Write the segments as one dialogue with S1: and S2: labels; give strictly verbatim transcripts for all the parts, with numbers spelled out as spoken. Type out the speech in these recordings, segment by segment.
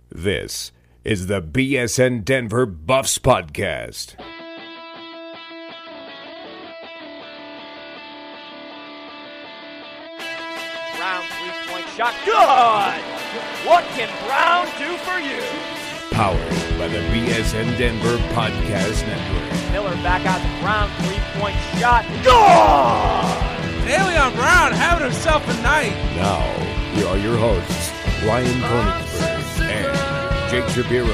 S1: This is the B S N Denver Buffs Podcast.
S2: Brown three-point shot. Good! What can Brown do for you?
S1: Powered by the B S N Denver Podcast Network.
S2: Miller back out to Brown three-point shot. Good!
S3: Dailion Brown having himself a night.
S1: Now, here are your hosts, Ryan Koenigsberg and Jake Shapiro.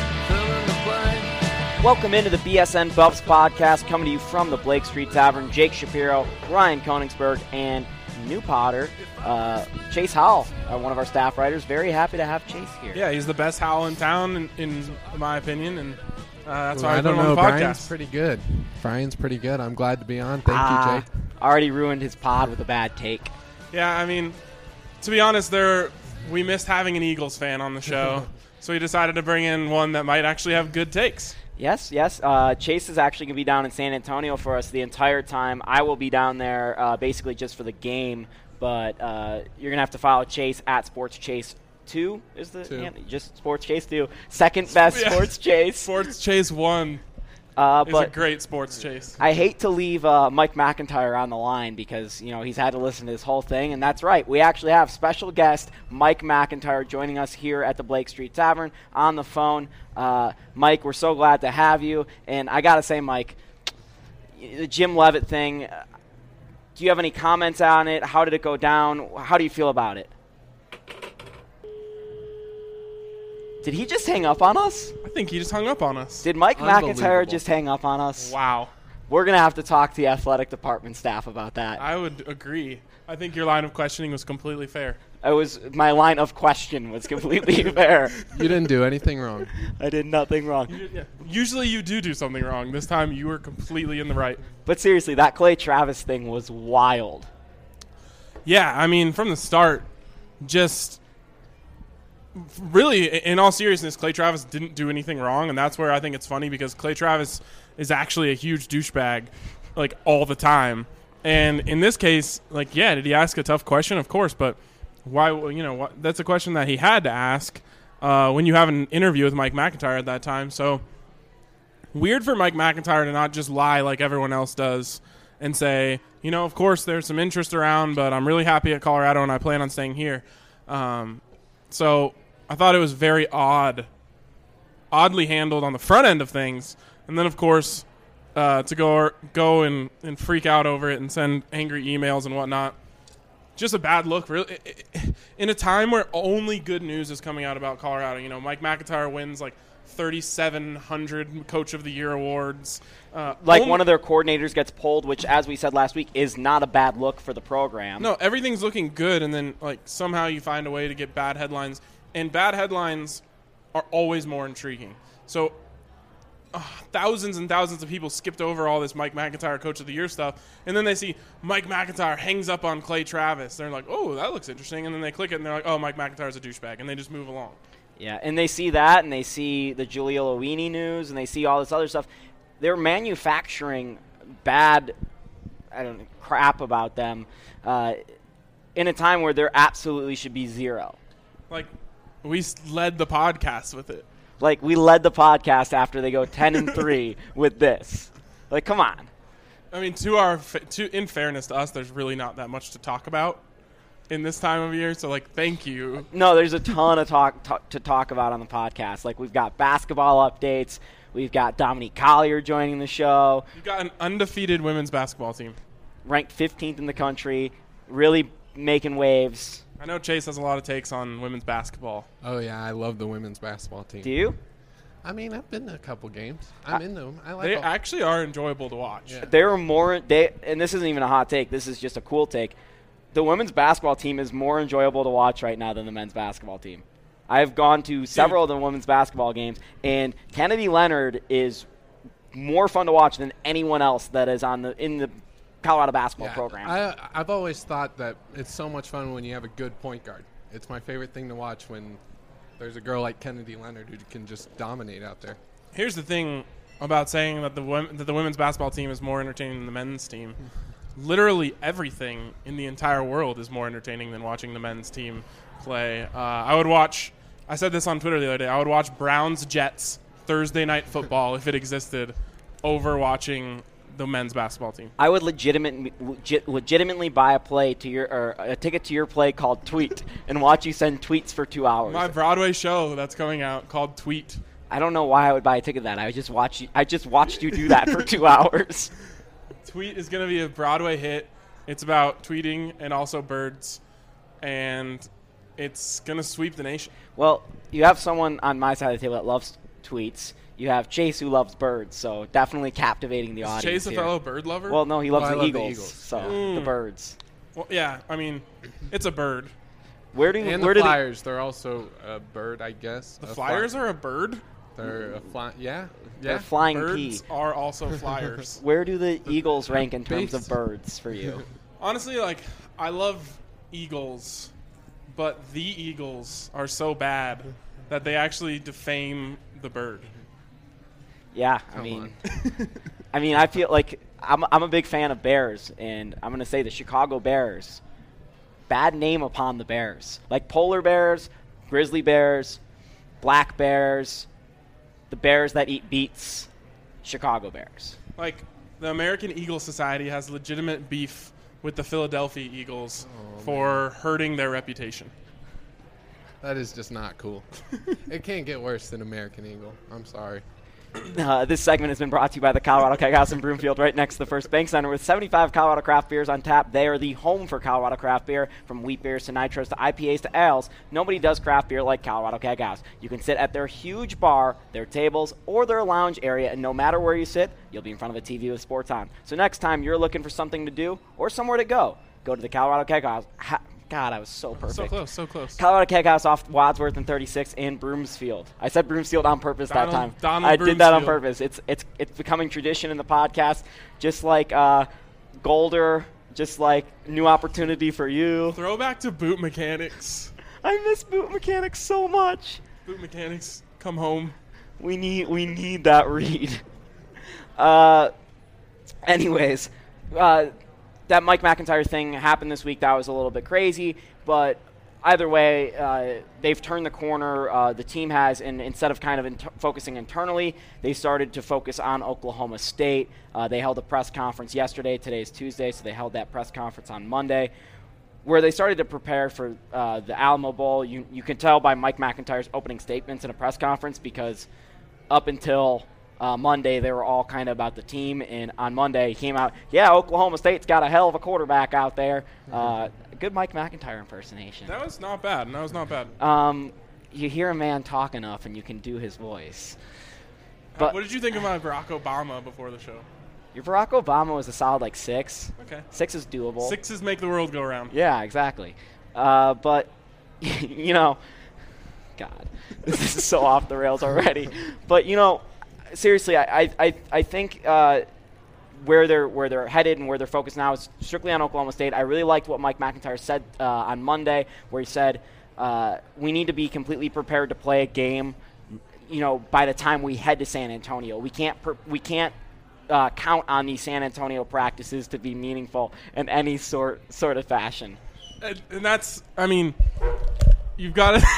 S2: Welcome into the B S N Buffs Podcast, coming to you from the Blake Street Tavern. Jake Shapiro, Ryan Koenigsberg, and new Potter, uh, Chase Howell, uh, one of our staff writers. Very happy to have Chase here.
S3: Yeah, he's the best Howell in town, in, in my opinion, and uh, that's
S4: well,
S3: why I,
S4: I
S3: put
S4: don't
S3: him
S4: know.
S3: on the podcast.
S4: Brian's pretty good. Brian's pretty good. I'm glad to be on. Thank
S2: ah,
S4: you, Jake.
S2: Already ruined his pod with a bad take.
S3: Yeah, I mean, to be honest, there we missed having an Eagles fan on the show, so we decided to bring in one that might actually have good takes.
S2: Yes, yes. Uh, Chase is actually going to be down in San Antonio for us the entire time. I will be down there uh, basically just for the game, but uh, you're going to have to follow Chase at Sports Chase two is the
S4: two.
S2: handle? Just Sports Chase two. Second best
S3: Yeah.
S2: Sports Chase.
S3: Sports Chase one
S2: Uh,
S3: is
S2: but
S3: a great Sports Chase.
S2: I hate to leave uh, Mike McIntyre on the line because, you know, he's had to listen to this whole thing, and that's right. We actually have special guest Mike McIntyre joining us here at the Blake Street Tavern on the phone. Uh, Mike, we're so glad to have you, and I got to say, Mike, the Jim Leavitt thing, uh, do you have any comments on it? How did it go down? How do you feel about it? Did he just hang up on us?
S3: I think he just hung up on us.
S2: Did Mike McIntyre
S4: Unbelievable.
S2: just hang up on us?
S3: Wow.
S2: We're going to have to talk to the athletic department staff about that.
S3: I would agree. I think your line of questioning was completely fair.
S2: It was my line of question was completely fair.
S4: You didn't do anything wrong.
S2: I did nothing wrong.
S3: You did- yeah. Usually you do do something wrong. This time you were completely in the right.
S2: But seriously, that Clay Travis thing was wild.
S3: Yeah, I mean, from the start, just really, in all seriousness, Clay Travis didn't do anything wrong, and that's where I think it's funny because Clay Travis is actually a huge douchebag, like, all the time. And in this case, like, yeah, did he ask a tough question? Of course, but why, you know, what, that's a question that he had to ask uh, when you have an interview with Mike McIntyre at that time. So weird for Mike McIntyre to not just lie like everyone else does and say, you know, of course there's some interest around, but I'm really happy at Colorado and I plan on staying here. Um, so I thought it was very odd, oddly handled on the front end of things. And then, of course, uh, to go go and, and freak out over it and send angry emails and whatnot. Just a bad look, really. In a time where only good news is coming out about Colorado. You know, Mike McIntyre wins like thirty-seven hundred Coach of the Year awards. Uh,
S2: Like
S3: only-
S2: one of their coordinators gets pulled, which, as we said last week, is not a bad look for the program.
S3: No, everything's looking good, and then like somehow you find a way to get bad headlines, and bad headlines are always more intriguing. So uh, thousands and thousands of people skipped over all this Mike McIntyre Coach of the Year stuff, and then they see Mike McIntyre hangs up on Clay Travis. They're like, oh, that looks interesting, and then they click it, and they're like, oh, Mike McIntyre's a douchebag, and they just move along.
S2: Yeah, and they see that, and they see the Julia Lowini news, and they see all this other stuff. They're manufacturing bad, I don't know, crap about them uh, in a time where there absolutely should be zero.
S3: Like, we s- led the podcast with it.
S2: Like, we led the podcast after they go ten and three with this. Like, come on.
S3: I mean, to our fa- to in fairness to us, there's really not that much to talk about in this time of year. So, like, thank you.
S2: No, there's a ton of talk, talk to talk about on the podcast. Like, we've got basketball updates. We've got Dominique Collier joining the show,
S3: You've got an undefeated women's basketball team.
S2: ranked fifteenth in the country, really making waves.
S3: I know Chase has a lot of takes on women's basketball.
S4: Oh, yeah, I love the women's basketball team.
S2: Do you?
S4: I mean, I've been to a couple games. I'm
S2: I-
S4: into them. I like
S3: They
S4: all-
S3: actually are enjoyable to watch.
S4: Yeah.
S2: They were more they and this isn't even a hot take, this is just a cool take. The women's basketball team is more enjoyable to watch right now than the men's basketball team. I've gone to several of the women's basketball games, and Kennedy Leonard is more fun to watch than anyone else that is on the in the Colorado basketball
S4: Yeah,
S2: program.
S4: I, I've always thought that it's so much fun when you have a good point guard. It's my favorite thing to watch when there's a girl like Kennedy Leonard who can just dominate out there.
S3: Here's the thing about saying that the wom- that the women's basketball team is more entertaining than the men's team. Literally everything in the entire world is more entertaining than watching the men's team play. Uh, I would watch I said this on Twitter the other day. I would watch Browns Jets Thursday night football if it existed over watching the men's basketball team.
S2: I would legitimately, legit, legitimately buy a play to your or a ticket to your play called Tweet and watch you send tweets for two hours.
S3: My Broadway show that's coming out called Tweet.
S2: I don't know why I would buy a ticket to that. I just watch you, I just watched you do that for two hours.
S3: Tweet is going to be a Broadway hit. It's about tweeting and also birds, and it's going to sweep the nation.
S2: Well, you have someone on my side of the table that loves tweets. You have Chase who loves birds, so definitely captivating the
S3: Is
S2: audience.
S3: Chase a
S2: here.
S3: fellow bird lover?
S2: Well, no, he loves
S4: Well, I
S2: the,
S4: love
S2: Eagles,
S4: the Eagles,
S2: so
S4: yeah.
S2: the
S3: Mm.
S2: birds.
S3: Well, yeah, I mean, it's a bird.
S2: Where do
S4: And
S2: where
S4: the
S2: do
S4: Flyers, they're also a bird, I guess.
S3: The
S4: A
S3: Flyers
S4: fly-
S3: are a bird?
S4: They're a fly. Yeah,
S2: the
S4: yeah.
S2: flying
S3: Birds
S2: pea?
S3: are also flyers.
S2: Where do the Eagles rank in terms of
S4: Beast.
S2: birds for you?
S3: Honestly, like, I love eagles, but the Eagles are so bad that they actually defame the bird.
S2: Yeah, I
S4: Come
S2: mean, I mean, I feel like I'm I'm a big fan of Bears, and I'm gonna say the Chicago Bears. Bad name upon the Bears, like polar bears, grizzly bears, black bears, the bears that eat beets, Chicago Bears.
S3: Like, the American Eagle Society has legitimate beef with the Philadelphia Eagles
S4: Oh,
S3: for hurting their reputation.
S4: That is just not cool. It can't get worse than American Eagle. I'm sorry.
S2: Uh, this segment has been brought to you by the Colorado Keg House in Broomfield, right next to the First Bank Center. With seventy-five Colorado craft beers on tap, they are the home for Colorado craft beer. From wheat beers to nitros to I P As to ales, nobody does craft beer like Colorado Keg House. You can sit at their huge bar, their tables, or their lounge area, and no matter where you sit, you'll be in front of a T V with sports on. So next time you're looking for something to do or somewhere to go, go to the Colorado Keg House. Ha- God, I was so perfect.
S3: So close, so close.
S2: Colorado Keg House off Wadsworth and thirty-six in Broomsfield. I said Broomfield on purpose
S3: Donald-
S2: that time.
S3: Donald
S2: I did that on
S3: Broomfield.
S2: purpose. It's it's it's becoming tradition in the podcast, just like uh, Golder, just like New Opportunity for You.
S3: Throwback to boot mechanics.
S2: I miss boot mechanics so much.
S3: Boot mechanics, come home.
S2: We need we need that read. Uh, anyways, uh, that Mike McIntyre thing happened this week. That was a little bit crazy, but either way, uh, they've turned the corner. Uh, the team has, and instead of kind of inter- focusing internally, they started to focus on Oklahoma State. Uh, they held a press conference yesterday. Today is Tuesday, so they held that press conference on Monday, where they started to prepare for uh, the Alamo Bowl. You you can tell by Mike McIntyre's opening statements in a press conference, because up until uh, Monday, they were all kind of about the team. And on Monday, he came out, yeah, Oklahoma State's got a hell of a quarterback out there. Uh, good Mike McIntyre impersonation.
S3: That was not bad. That was not bad.
S2: Um, you hear a man talk enough, and you can do his voice. But
S3: what did you think about Barack Obama before the show?
S2: your Barack Obama was a solid like six.
S3: Okay.
S2: Six is doable.
S3: Sixes make the world go round.
S2: Yeah, exactly. Uh, but, you know, God, this is so off the rails already. But, you know, seriously, I I, I think uh, where they're where they're headed and where they're focused now is strictly on Oklahoma State. I really liked what Mike McIntyre said uh, on Monday, where he said uh, we need to be completely prepared to play a game. You know, by the time we head to San Antonio, we can't per- we can't uh, count on these San Antonio practices to be meaningful in any sort sort of fashion.
S3: And, and that's, I mean, you've got to.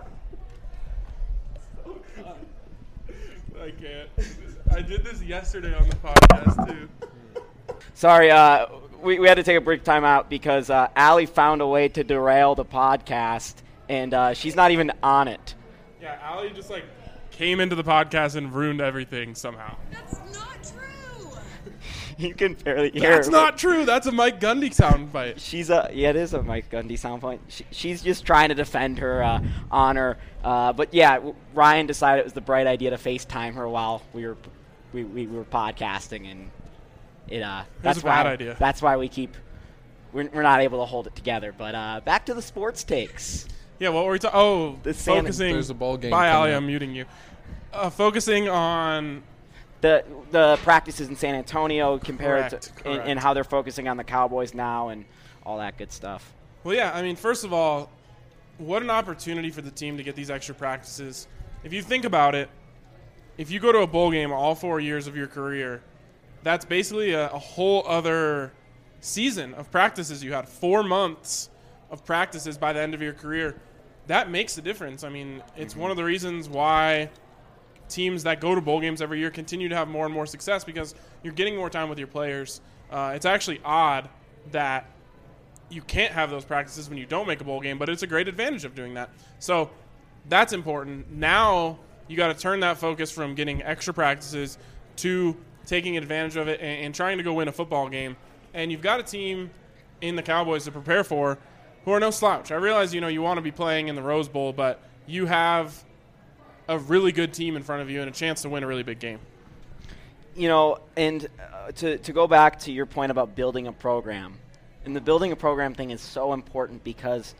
S3: I can't. I did this yesterday on the podcast, too.
S2: Sorry, uh, we, we had to take a brief time out because uh, Allie found a way to derail the podcast, and uh, she's not even on it.
S3: Yeah, Allie just, like, came into the podcast and ruined everything somehow.
S5: That's not true.
S2: You can barely hear
S3: That's
S2: her.
S3: not true. That's a Mike Gundy soundbite.
S2: She's a yeah, it is a Mike Gundy sound point. She, she's just trying to defend her uh, honor. Uh, but yeah, w- Ryan decided it was the bright idea to FaceTime her while we were we, we were podcasting, and it uh that's
S3: a bad
S2: why
S3: idea.
S2: that's why we keep we're, we're not able to hold it together. But uh, back to the sports takes.
S3: Yeah, what were we talking? Oh,
S2: The San-
S3: focusing.
S4: There's a bowl game
S3: Bye,
S4: coming
S3: Allie.
S4: up.
S3: I'm muting you. Uh, focusing on
S2: The the practices in San Antonio compared
S3: Correct,
S2: to
S3: correct.
S2: and, and how they're focusing on the Cowboys now and all that good stuff.
S3: Well, yeah, I mean, first of all, what an opportunity for the team to get these extra practices. If you think about it, if you go to a bowl game all four years of your career, that's basically a, a whole other season of practices you had. Four months of practices by the end of your career. that makes a difference. I mean, it's mm-hmm. one of the reasons why teams that go to bowl games every year continue to have more and more success because you're getting more time with your players. Uh, it's actually odd that you can't have those practices when you don't make a bowl game, but it's a great advantage of doing that. So that's important. Now you got to turn that focus from getting extra practices to taking advantage of it and, and trying to go win a football game. And you've got a team in the Cowboys to prepare for who are no slouch. I realize, you know, you want to be playing in the Rose Bowl, but you have a really good team in front of you and a chance to win a really big game.
S2: You know, and uh, to, to go back to your point about building a program, and the building a program thing is so important because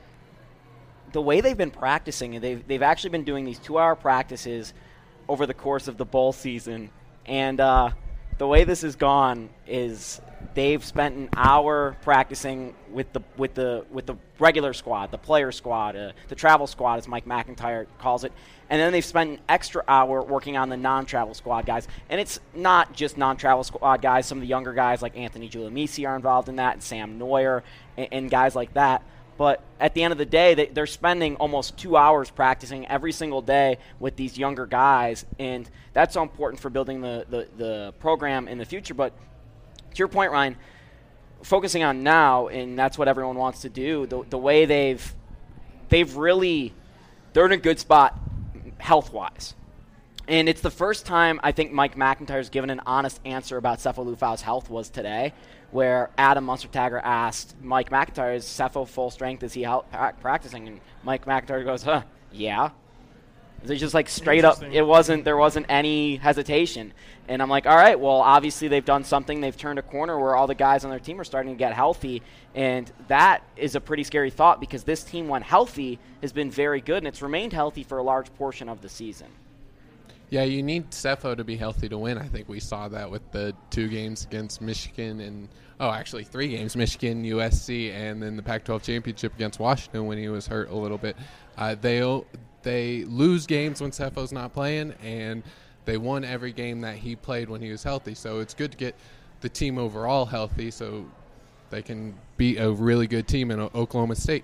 S2: the way they've been practicing, they've, they've actually been doing these two-hour practices over the course of the bowl season. And uh, the way this has gone is they've spent an hour practicing with the with the with the regular squad, the player squad, uh, the travel squad, as Mike MacIntyre calls it, and then they've spent an extra hour working on the non-travel squad guys. And it's not just non-travel squad guys. Some of the younger guys like Anthony Giuliamisi are involved in that, and Sam Neuer, and, and guys like that. But at the end of the day, they, they're spending almost two hours practicing every single day with these younger guys, and that's so important for building the, the, the program in the future. But to your point, Ryan, focusing on now, and that's what everyone wants to do, the, the way they've they've really – they're in a good spot health-wise. And it's the first time I think Mike MacIntyre's given an honest answer about Sefo Liufau's health was today, where Adam Munstertagger asked Mike MacIntyre, is Sefo full strength? Is he out practicing? And Mike MacIntyre goes, huh, yeah. It's just like straight up, it wasn't, there wasn't any hesitation. And I'm like, all right, well, obviously they've done something. They've turned a corner where all the guys on their team are starting to get healthy. And that is a pretty scary thought because this team, when healthy, has been very good, and it's remained healthy for a large portion of the season.
S4: Yeah, you need Sefo to be healthy to win. I think we saw that with the two games against Michigan and, oh, actually three games, Michigan, U S C, and then the Pac twelve championship against Washington when he was hurt a little bit. Uh, they they lose games when Sefo's not playing, and they won every game that he played when he was healthy. So it's good to get the team overall healthy so they can beat a really good team in Oklahoma State.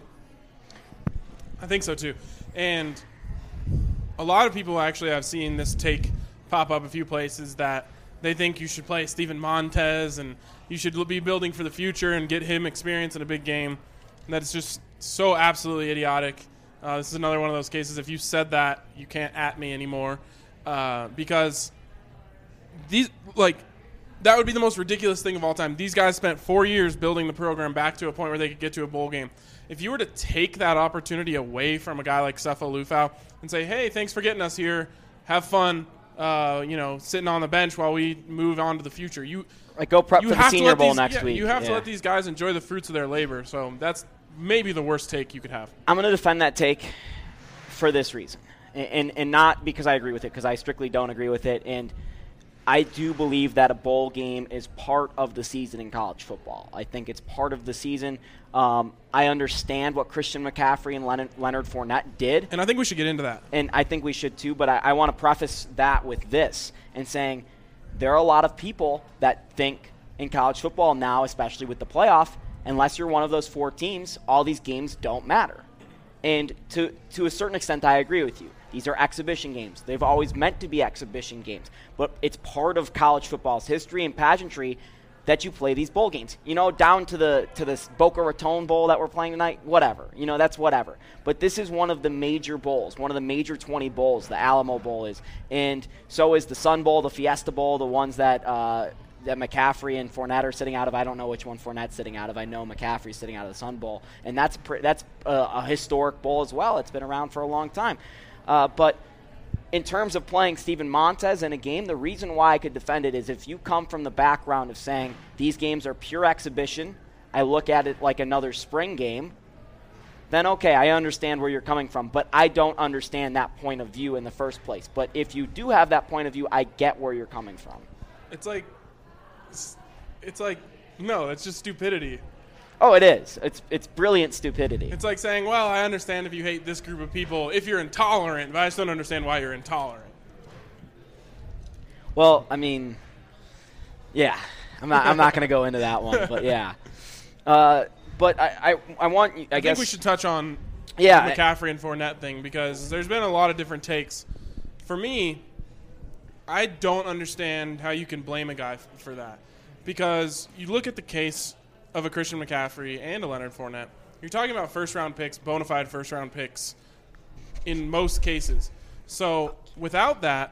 S3: I think so, too. And a lot of people actually have seen this take pop up a few places that they think you should play Steven Montez and you should be building for the future and get him experience in a big game. And that is just so absolutely idiotic. Uh, this is another one of those cases. If you said that, you can't at me anymore uh, because these like that would be the most ridiculous thing of all time. These guys spent four years building the program back to a point where they could get to a bowl game. If you were to take that opportunity away from a guy like Sefo Liufau and say, hey, thanks for getting us here, have fun, uh, you know, sitting on the bench while we move on to the future. You
S2: like go prep
S3: you
S2: for the Senior Bowl
S3: these,
S2: next
S3: yeah,
S2: week.
S3: You have
S2: yeah.
S3: to let these guys enjoy the fruits of their labor. So that's maybe the worst take you could have.
S2: I'm going to defend that take for this reason, and, and, and not because I agree with it, because I strictly don't agree with it. And I do believe that a bowl game is part of the season in college football. I think it's part of the season. Um, I understand what Christian McCaffrey and Leonard, Leonard Fournette did.
S3: And I think we should get into that.
S2: And I think we should too, but I, I want to preface that with this and saying there are a lot of people that think in college football now, especially with the playoff, unless you're one of those four teams, all these games don't matter. And to to a certain extent, I agree with you. These are exhibition games. They've always meant to be exhibition games. But it's part of college football's history and pageantry that you play these bowl games. You know, down to the to this Boca Raton Bowl that we're playing tonight, whatever. You know, that's whatever. But this is one of the major bowls, one of the major twenty bowls, the Alamo Bowl is. And so is the Sun Bowl, the Fiesta Bowl, the ones that uh, that McCaffrey and Fournette are sitting out of. I don't know which one Fournette's sitting out of. I know McCaffrey's sitting out of the Sun Bowl. And that's, pr- that's a, a historic bowl as well. It's been around for a long time. Uh, but in terms of playing Steven Montez in a game, the reason why I could defend it is if you come from the background of saying these games are pure exhibition, I look at it like another spring game, then okay, I understand where you're coming from. But I don't understand that point of view in the first place. But if you do have that point of view, I get where you're coming from.
S3: It's like, it's, it's like, no, it's just stupidity.
S2: Oh, it is. It's it's brilliant stupidity.
S3: It's like saying, well, I understand if you hate this group of people, if you're intolerant, but I just don't understand why you're intolerant.
S2: Well, I mean, yeah. I'm not I'm not going to go into that one, but yeah. Uh, but I, I, I want, I,
S3: I
S2: guess.
S3: think we should touch on
S2: Yeah.
S3: the McCaffrey and Fournette thing, because there's been a lot of different takes. For me, I don't understand how you can blame a guy f- for that, because you look at the case of a Christian McCaffrey and a Leonard Fournette. You're talking about first-round picks, bona fide first-round picks in most cases. So without that,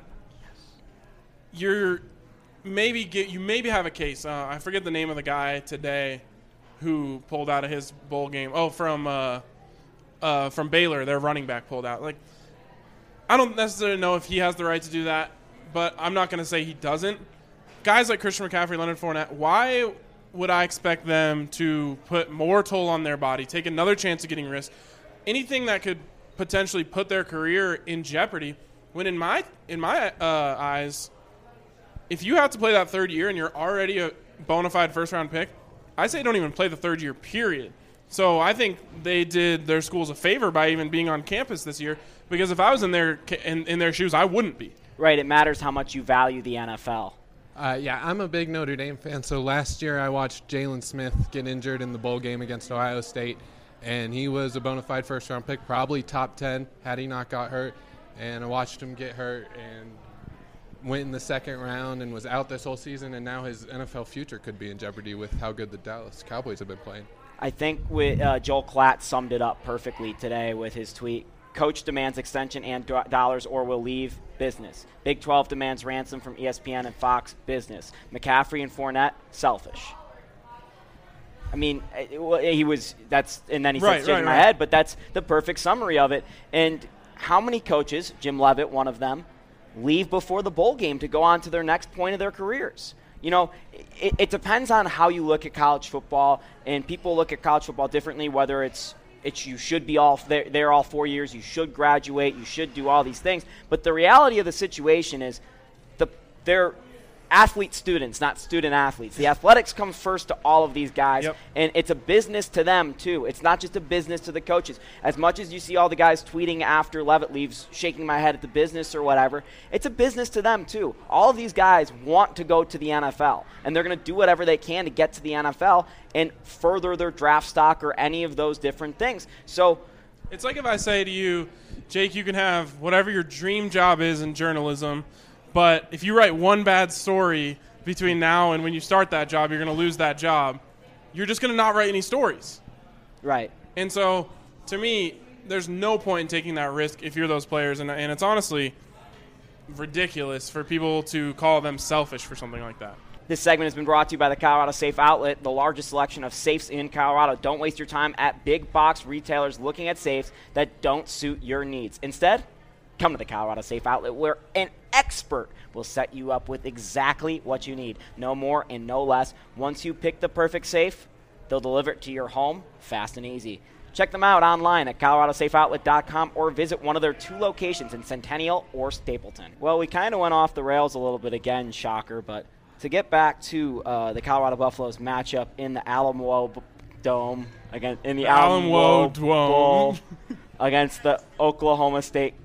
S3: you're maybe get you maybe have a case. Uh, I forget the name of the guy today who pulled out of his bowl game. Oh, from uh, uh, from Baylor, their running back pulled out. Like, I don't necessarily know if he has the right to do that, but I'm not going to say he doesn't. Guys like Christian McCaffrey, Leonard Fournette, why would I expect them to put more toll on their body, take another chance of getting risk, anything that could potentially put their career in jeopardy, when in my in my uh, eyes, if you have to play that third year and you're already a bona fide first-round pick, I say don't even play the third year, period. So I think they did their schools a favor by even being on campus this year, because if I was in their in, in their shoes, I wouldn't be.
S2: Right, it matters how much you value the N F L.
S4: Uh, yeah, I'm a big Notre Dame fan. So last year I watched Jalen Smith get injured in the bowl game against Ohio State, and he was a bona fide first-round pick, probably top ten had he not got hurt. And I watched him get hurt and went in the second round and was out this whole season, and now his N F L future could be in jeopardy with how good the Dallas Cowboys have been playing.
S2: I think with, uh, Joel Klatt summed it up perfectly today with his tweet. Coach demands extension and do- dollars or will leave business. Big twelve demands ransom from E S P N and Fox business. McCaffrey and Fournette, selfish. I mean, it, he was, that's, and then he
S3: Right,
S2: said shaking
S3: right,
S2: my
S3: right.
S2: head, but that's the perfect summary of it. And how many coaches, Jim Leavitt, one of them, leave before the bowl game to go on to their next point of their careers? You know, it, it depends on how you look at college football, and people look at college football differently, whether it's it's you should be all there, there all four years, you should graduate, you should do all these things. But the reality of the situation is the they're athlete students, not student athletes. The athletics come first to all of these guys,
S3: Yep.
S2: and it's a business to them too. It's not just a business to the coaches. As much as you see all the guys tweeting after Leavitt leaves, shaking my head at the business or whatever, it's a business to them too. All of these guys want to go to the N F L, and they're going to do whatever they can to get to the N F L and further their draft stock or any of those different things. So
S3: It's like if I say to you, Jake, you can have whatever your dream job is in journalism, but if you write one bad story between now and when you start that job, you're going to lose that job. You're just going to not write any stories.
S2: right.
S3: And so, to me, there's no point in taking that risk if you're those players. And, and it's honestly ridiculous for people to call them selfish for something like that.
S2: This segment has been brought to you by the Colorado Safe Outlet, the largest selection of safes in Colorado. Don't waste your time at big box retailers looking at safes that don't suit your needs. Instead, come to the Colorado Safe Outlet, where an expert will set you up with exactly what you need. No more and no less. Once you pick the perfect safe, they'll deliver it to your home fast and easy. Check them out online at colorado safe outlet dot com or visit one of their two locations in Centennial or Stapleton. Well, we kind of went off the rails a little bit again, shocker, but to get back to uh, the Colorado Buffaloes matchup in the Alamo B- Dome, again in the,
S3: The
S2: Alamo
S3: Alamo
S2: Bowl
S3: Dome.
S2: against the Oklahoma State,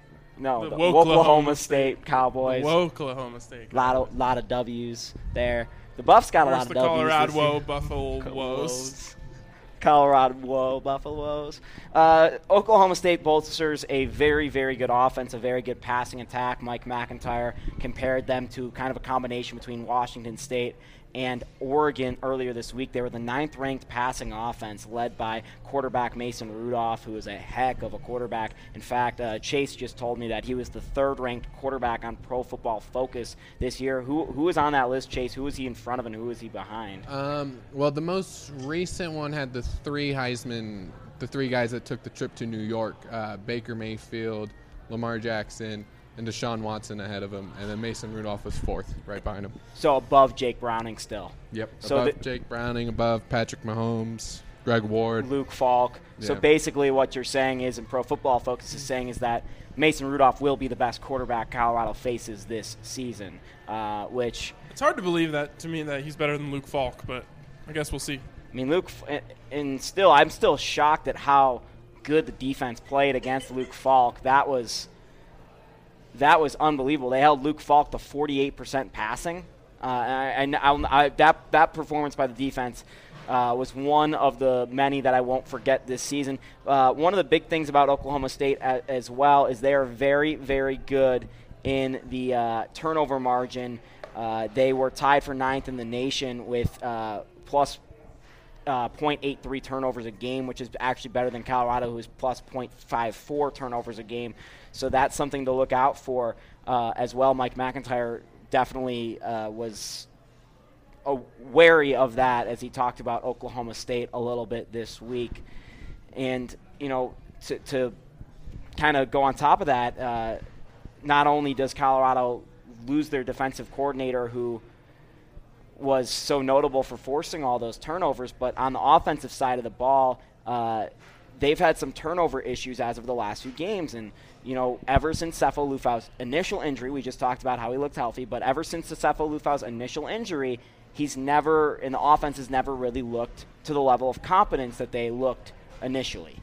S2: no,
S3: The
S2: the,
S3: Woklahoma
S2: Oklahoma
S3: State.
S2: State Cowboys.
S3: Oklahoma State.
S2: Lot of lot of W's there. The Buffs got a lot
S3: Where's
S2: of
S3: the
S2: W's. this
S3: Colorado
S2: year.
S3: Buffalo Woes?
S2: Woes. Colorado Whoa, Buffaloes. Uh, Oklahoma State bolsters a very, very good offense, a very good passing attack. Mike McIntyre compared them to kind of a combination between Washington State and Oregon earlier this week. They were the ninth-ranked passing offense led by quarterback Mason Rudolph, who is a heck of a quarterback. In fact, uh, Chase just told me that he was the third-ranked quarterback on Pro Football Focus this year. Who Who is on that list, Chase? Who is he in front of and who is he behind?
S4: Um, well, the most recent one had the three Heisman, the three guys that took the trip to New York, uh, Baker Mayfield, Lamar Jackson, and Deshaun Watson ahead of him, and then Mason Rudolph was fourth, right behind him.
S2: So above Jake Browning still.
S4: Yep.
S2: So
S4: above
S2: the-
S4: Jake Browning, above Patrick Mahomes, Greg Ward.
S2: Luke Falk. So
S4: Yeah.
S2: basically what you're saying is, and Pro Football Focus is saying, is that Mason Rudolph will be the best quarterback Colorado faces this season, uh, which,
S3: It's hard to believe that to me that he's better than Luke Falk, but I guess we'll see.
S2: I mean, Luke, F- and still, I'm still shocked at how good the defense played against Luke Falk. That was, that was unbelievable. They held Luke Falk to forty-eight percent passing. Uh, and I, I, I, that that performance by the defense uh, was one of the many that I won't forget this season. Uh, one of the big things about Oklahoma State a, as well is they are very, very good in the uh, turnover margin. Uh, they were tied for ninth in the nation with uh, plus uh, point eight three turnovers a game, which is actually better than Colorado, who is plus point five four turnovers a game. So that's something to look out for uh, as well. Mike MacIntyre definitely uh, was uh, wary of that as he talked about Oklahoma State a little bit this week. And, you know, to, to kind of go on top of that, uh, not only does Colorado lose their defensive coordinator who was so notable for forcing all those turnovers, but on the offensive side of the ball, uh, they've had some turnover issues as of the last few games. And, you know, ever since Sefo Lufau's initial injury, we just talked about how he looked healthy, but ever since the Sefo Lufau's initial injury, he's never, and the offense has never really looked to the level of competence that they looked initially.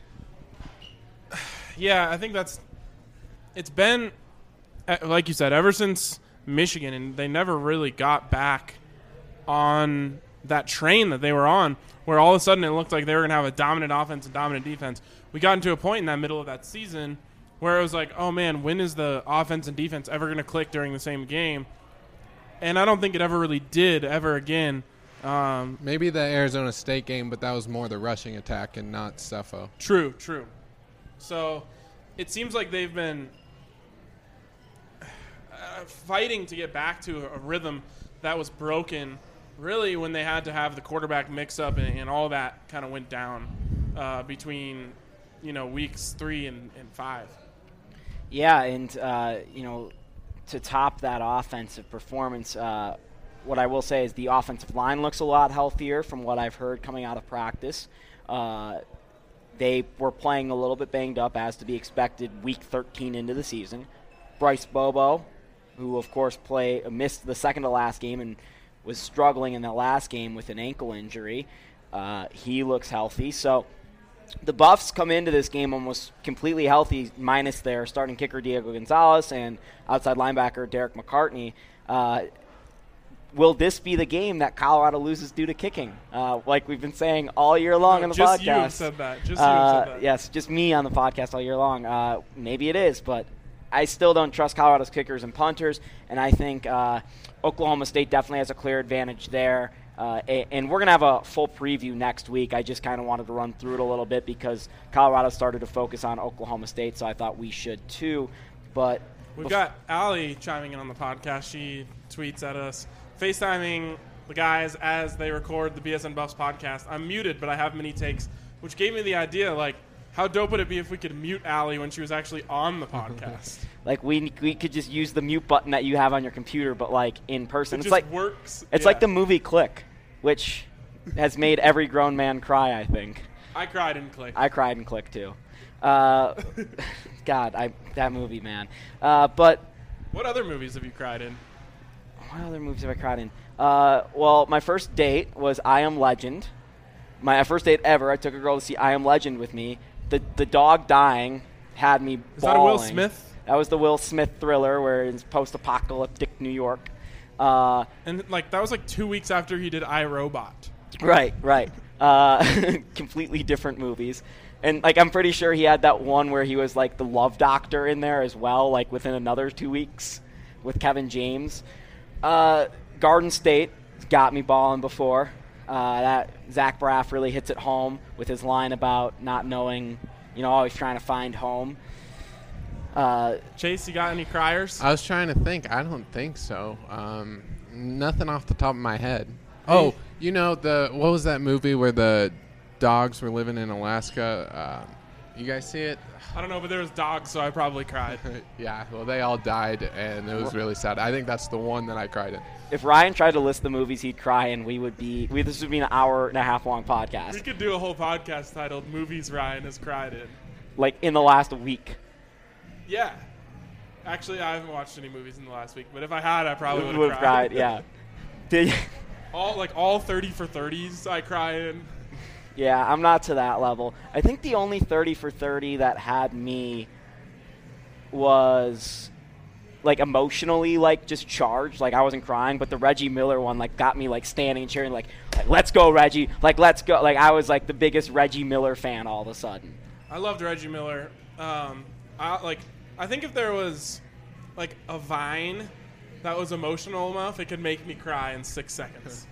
S3: Yeah, I think that's, it's been, like you said, ever since Michigan, and they never really got back on that train that they were on, where all of a sudden it looked like they were going to have a dominant offense and dominant defense. We got into a point in that middle of that season where it was like, oh, man, when is the offense and defense ever going to click during the same game? And I don't think it ever really did ever again. Um,
S4: Maybe the Arizona State game, but that was more the rushing attack and not Sefo.
S3: True, true. So it seems like they've been uh, fighting to get back to a rhythm that was broken really when they had to have the quarterback mix-up and, and all that kind of went down uh, between, you know, weeks three and, and five.
S2: Yeah, and, uh, you know, to top that offensive performance, uh, what I will say is the offensive line looks a lot healthier from what I've heard coming out of practice. Uh, they were playing a little bit banged up, as to be expected, week thirteen into the season. Bryce Bobo, who, of course, play, missed the second to last game and was struggling in the last game with an ankle injury. Uh, he looks healthy. So the Buffs come into this game almost completely healthy, minus their starting kicker Diego Gonzalez and outside linebacker Derek McCartney. Uh, will this be the game that Colorado loses due to kicking? Uh, like we've been saying all year long
S3: no,
S2: on the
S3: just
S2: podcast.
S3: You have said that. Just
S2: uh,
S3: you have said that.
S2: Yes, just me on the podcast all year long. Uh, maybe it is, but I still don't trust Colorado's kickers and punters, and I think uh, Oklahoma State definitely has a clear advantage there. Uh, and we're going to have a full preview next week. I just kind of wanted to run through it a little bit because Colorado started to focus on Oklahoma State, so I thought we should too. But
S3: We've
S2: bef-
S3: got Allie chiming in on the podcast. She tweets at us, FaceTiming the guys as they record the B S N Buffs podcast. I'm muted, but I have many takes, which gave me the idea, like, how dope would it be if we could mute Allie when she was actually on the podcast?
S2: Like we we could just use the mute button that you have on your computer, but like in person.
S3: It
S2: it's
S3: just
S2: like
S3: works.
S2: It's
S3: Yeah.
S2: like the movie Click, which has made every grown man cry, I think.
S3: I cried in Click.
S2: I cried in Click too. Uh, God, I that movie, man. Uh, but
S3: What other movies have you cried in?
S2: what other movies have I cried in? Uh, well, my first date was I Am Legend. My first date ever. I took a girl to see I Am Legend with me. The the dog dying had me
S3: Is that a Will
S2: bawling.
S3: Smith?
S2: That was the Will Smith thriller where it's post-apocalyptic New York. Uh,
S3: And, like, that was, like, two weeks after he did iRobot.
S2: right, right. Uh, completely different movies. And, like, I'm pretty sure he had that one where he was, like, the love doctor in there as well, like, within another two weeks with Kevin James. Uh, Garden State got me balling before. Uh, that Zach Braff really hits it home with his line about not knowing, you know, always trying to find home. Uh,
S3: Chase, you got any criers?
S4: I was trying to think. I don't think so. Um, nothing off the top of my head. Oh, you know the what was that movie where the dogs were living in Alaska? Um, you guys see it?
S3: I don't know, but there was dogs, so I probably cried.
S4: Yeah. Well, they all died, and it was really sad. I think that's the one that I cried in.
S2: if Ryan tried to list the movies he'd cry in, we would be we, this would be an hour and a half long podcast.
S3: We could do a whole podcast titled "Movies Ryan Has Cried In."
S2: Like in the last week.
S3: Yeah. Actually, I haven't watched any movies in the last week, but if I had, I probably would
S2: Would
S3: have
S2: have
S3: cried.
S2: cried, yeah. Did you?
S3: All like all thirty for thirties, I cry in.
S2: Yeah, I'm not to that level. I think the only thirty for thirty that had me was like emotionally like just charged. Like I wasn't crying, but the Reggie Miller one like got me like standing and cheering like, like let's go Reggie, like let's go. Like I was like the biggest Reggie Miller fan all of a sudden.
S3: I loved Reggie Miller. Um, I like I think if there was like a Vine that was emotional enough, it could make me cry in six seconds.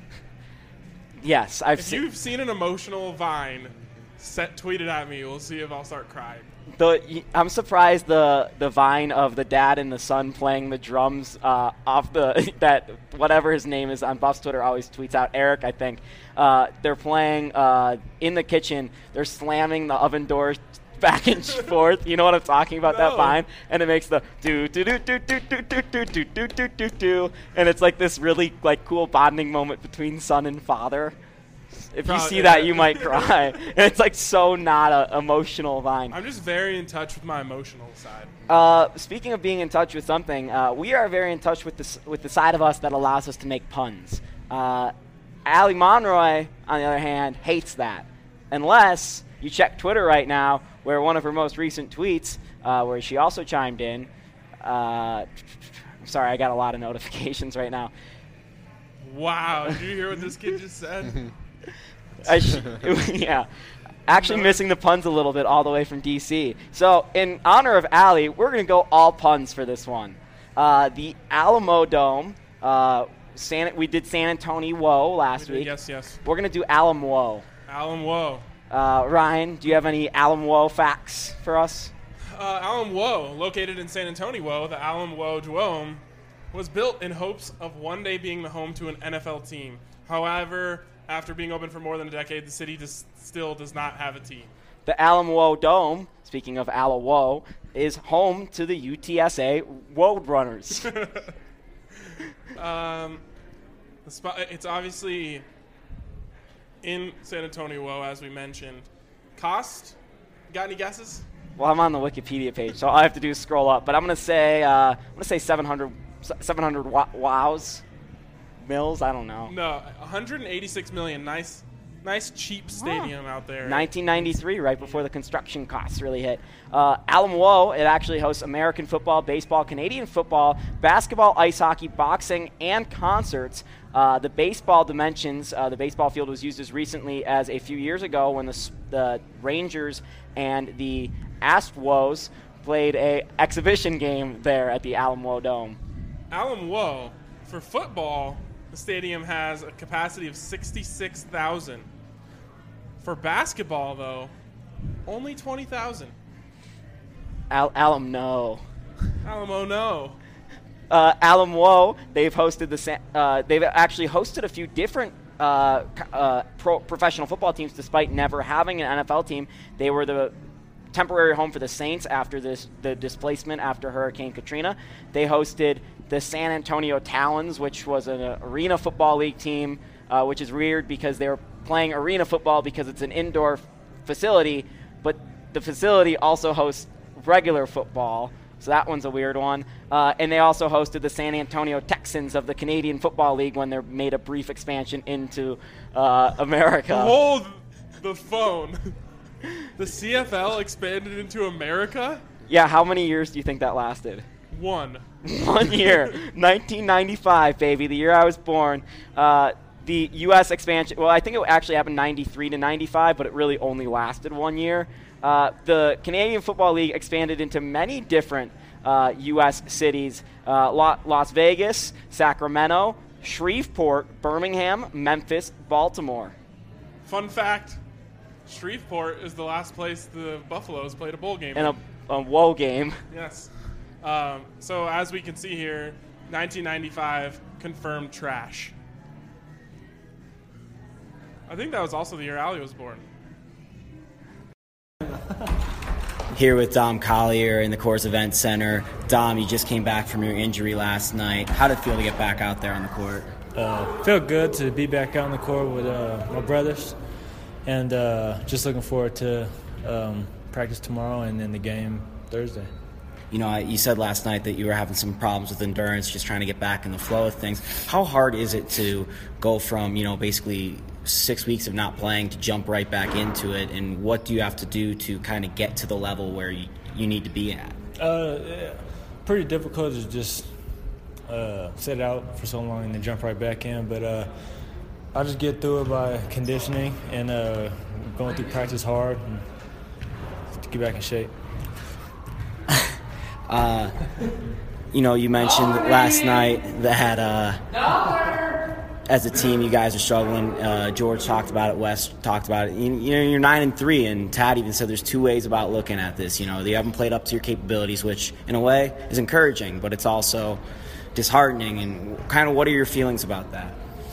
S2: Yes, I've
S3: If
S2: seen.
S3: you've seen an emotional Vine, set tweet it at me. We'll see if I'll start crying.
S2: The, I'm surprised the the Vine of the dad and the son playing the drums uh, off the that whatever his name is on Buff's Twitter always tweets out Eric I think uh, they're playing uh, in the kitchen. They're slamming the oven doors back and forth. You know what I'm talking about?
S3: No.
S2: That Vine, and it makes the do do do do do do do do do do do do do, and it's like this really like cool bonding moment between son and father. If you
S3: Probably,
S2: see that,
S3: yeah.
S2: you might cry. And it's like so not a emotional Vine.
S3: I'm just very in touch with my emotional side.
S2: Uh, speaking of being in touch with something, uh, we are very in touch with the with the side of us that allows us to make puns. Uh, Ali Monroy, on the other hand, hates that, unless you check Twitter right now, where one of her most recent tweets, uh, where she also chimed in. Uh, I'm sorry, I got a lot of notifications right now.
S3: Wow, did you hear what this kid just said?
S2: I sh- yeah. Actually missing the puns a little bit all the way from D C. So in honor of Allie, we're going to go all puns for this one. Uh, the Alamo Dome, uh, San, we did San Antonio last
S3: We did,
S2: week.
S3: yes, yes.
S2: We're going to do Alamo.
S3: Alan Woe.
S2: Uh, Ryan, do you have any Alamo facts for us?
S3: Uh, Alan Woe, located in San Antonio, the Alan Woe Dome, was built in hopes of one day being the home to an N F L team. However, after being open for more than a decade, the city just still does not have a team.
S2: The Alamo Dome, speaking of Alamo, is home to the U T S A Roadrunners.
S3: um, the spot, it's obviously in San Antonio, as we mentioned. Cost? Got any guesses?
S2: Well, I'm on the Wikipedia page, so all I have to do is scroll up. But I'm gonna say uh, I'm gonna say seven hundred, seven hundred wa- wows, mills. I don't know.
S3: No, one hundred eighty-six million. Nice, nice cheap stadium out there.
S2: nineteen ninety-three, right before the construction costs really hit. Uh, Alamo, it actually hosts American football, baseball, Canadian football, basketball, ice hockey, boxing, and concerts. Uh, the baseball dimensions, uh, the baseball field was used as recently as a few years ago when the, the Rangers and the Astros played a exhibition game there at the Alamo Dome.
S3: Alan Woe, for football, the stadium has a capacity of sixty-six thousand. For basketball, though, only twenty thousand.
S2: Al- Alamo.
S3: Alamo, no.
S2: Uh, Alamo, they've hosted the sa- uh, they've actually hosted a few different uh, uh, pro- professional football teams, despite never having an N F L team. They were the temporary home for the Saints after this the displacement after Hurricane Katrina. They hosted the San Antonio Talons, which was an uh, arena football league team, uh, which is weird because they were playing arena football because it's an indoor f- facility, but the facility also hosts regular football. So that one's a weird one. Uh, and they also hosted the San Antonio Texans of the Canadian Football League when they made a brief expansion into uh, America.
S3: Hold the phone. The C F L expanded into America?
S2: Yeah, how many years do you think that lasted?
S3: One.
S2: One year. nineteen ninety-five, baby, the year I was born. Uh, the U S expansion, well, I think it actually happened ninety-three to ninety-five, but it really only lasted one year. Uh, the Canadian Football League expanded into many different uh, U S cities. Uh, Las Vegas, Sacramento, Shreveport, Birmingham, Memphis, Baltimore.
S3: Fun fact, Shreveport is the last place the Buffaloes played a bowl game.
S2: And a, a woe game.
S3: Yes. Um, so as we can see here, nineteen ninety-five confirmed trash. I think that was also the year Allie was born.
S6: Here with Dom Collier in the Coors Event Center. Dom, you just came back from your injury last night. How did it feel to get back out there on the court?
S7: Uh, felt good to be back out on the court with uh, my brothers, and uh, just looking forward to um, practice tomorrow and then the game Thursday.
S6: You know, you said last night that you were having some problems with endurance, just trying to get back in the flow of things. How hard is it to go from, you know, basically six weeks of not playing to jump right back into it, and what do you have to do to kind of get to the level where you, you need to be at?
S7: Uh, pretty difficult to just uh, sit out for so long and then jump right back in. But uh, I just get through it by conditioning and uh, going through practice hard and to get back in shape.
S6: uh, you know, you mentioned last night that uh, as a team you guys are struggling. Uh, George talked about it. Wes talked about it. You, you know, you're nine and three, and Tad even said there's two ways about looking at this. You know, you haven't played up to your capabilities, which in a way is encouraging, but it's also disheartening. And kind of, what are your feelings about that?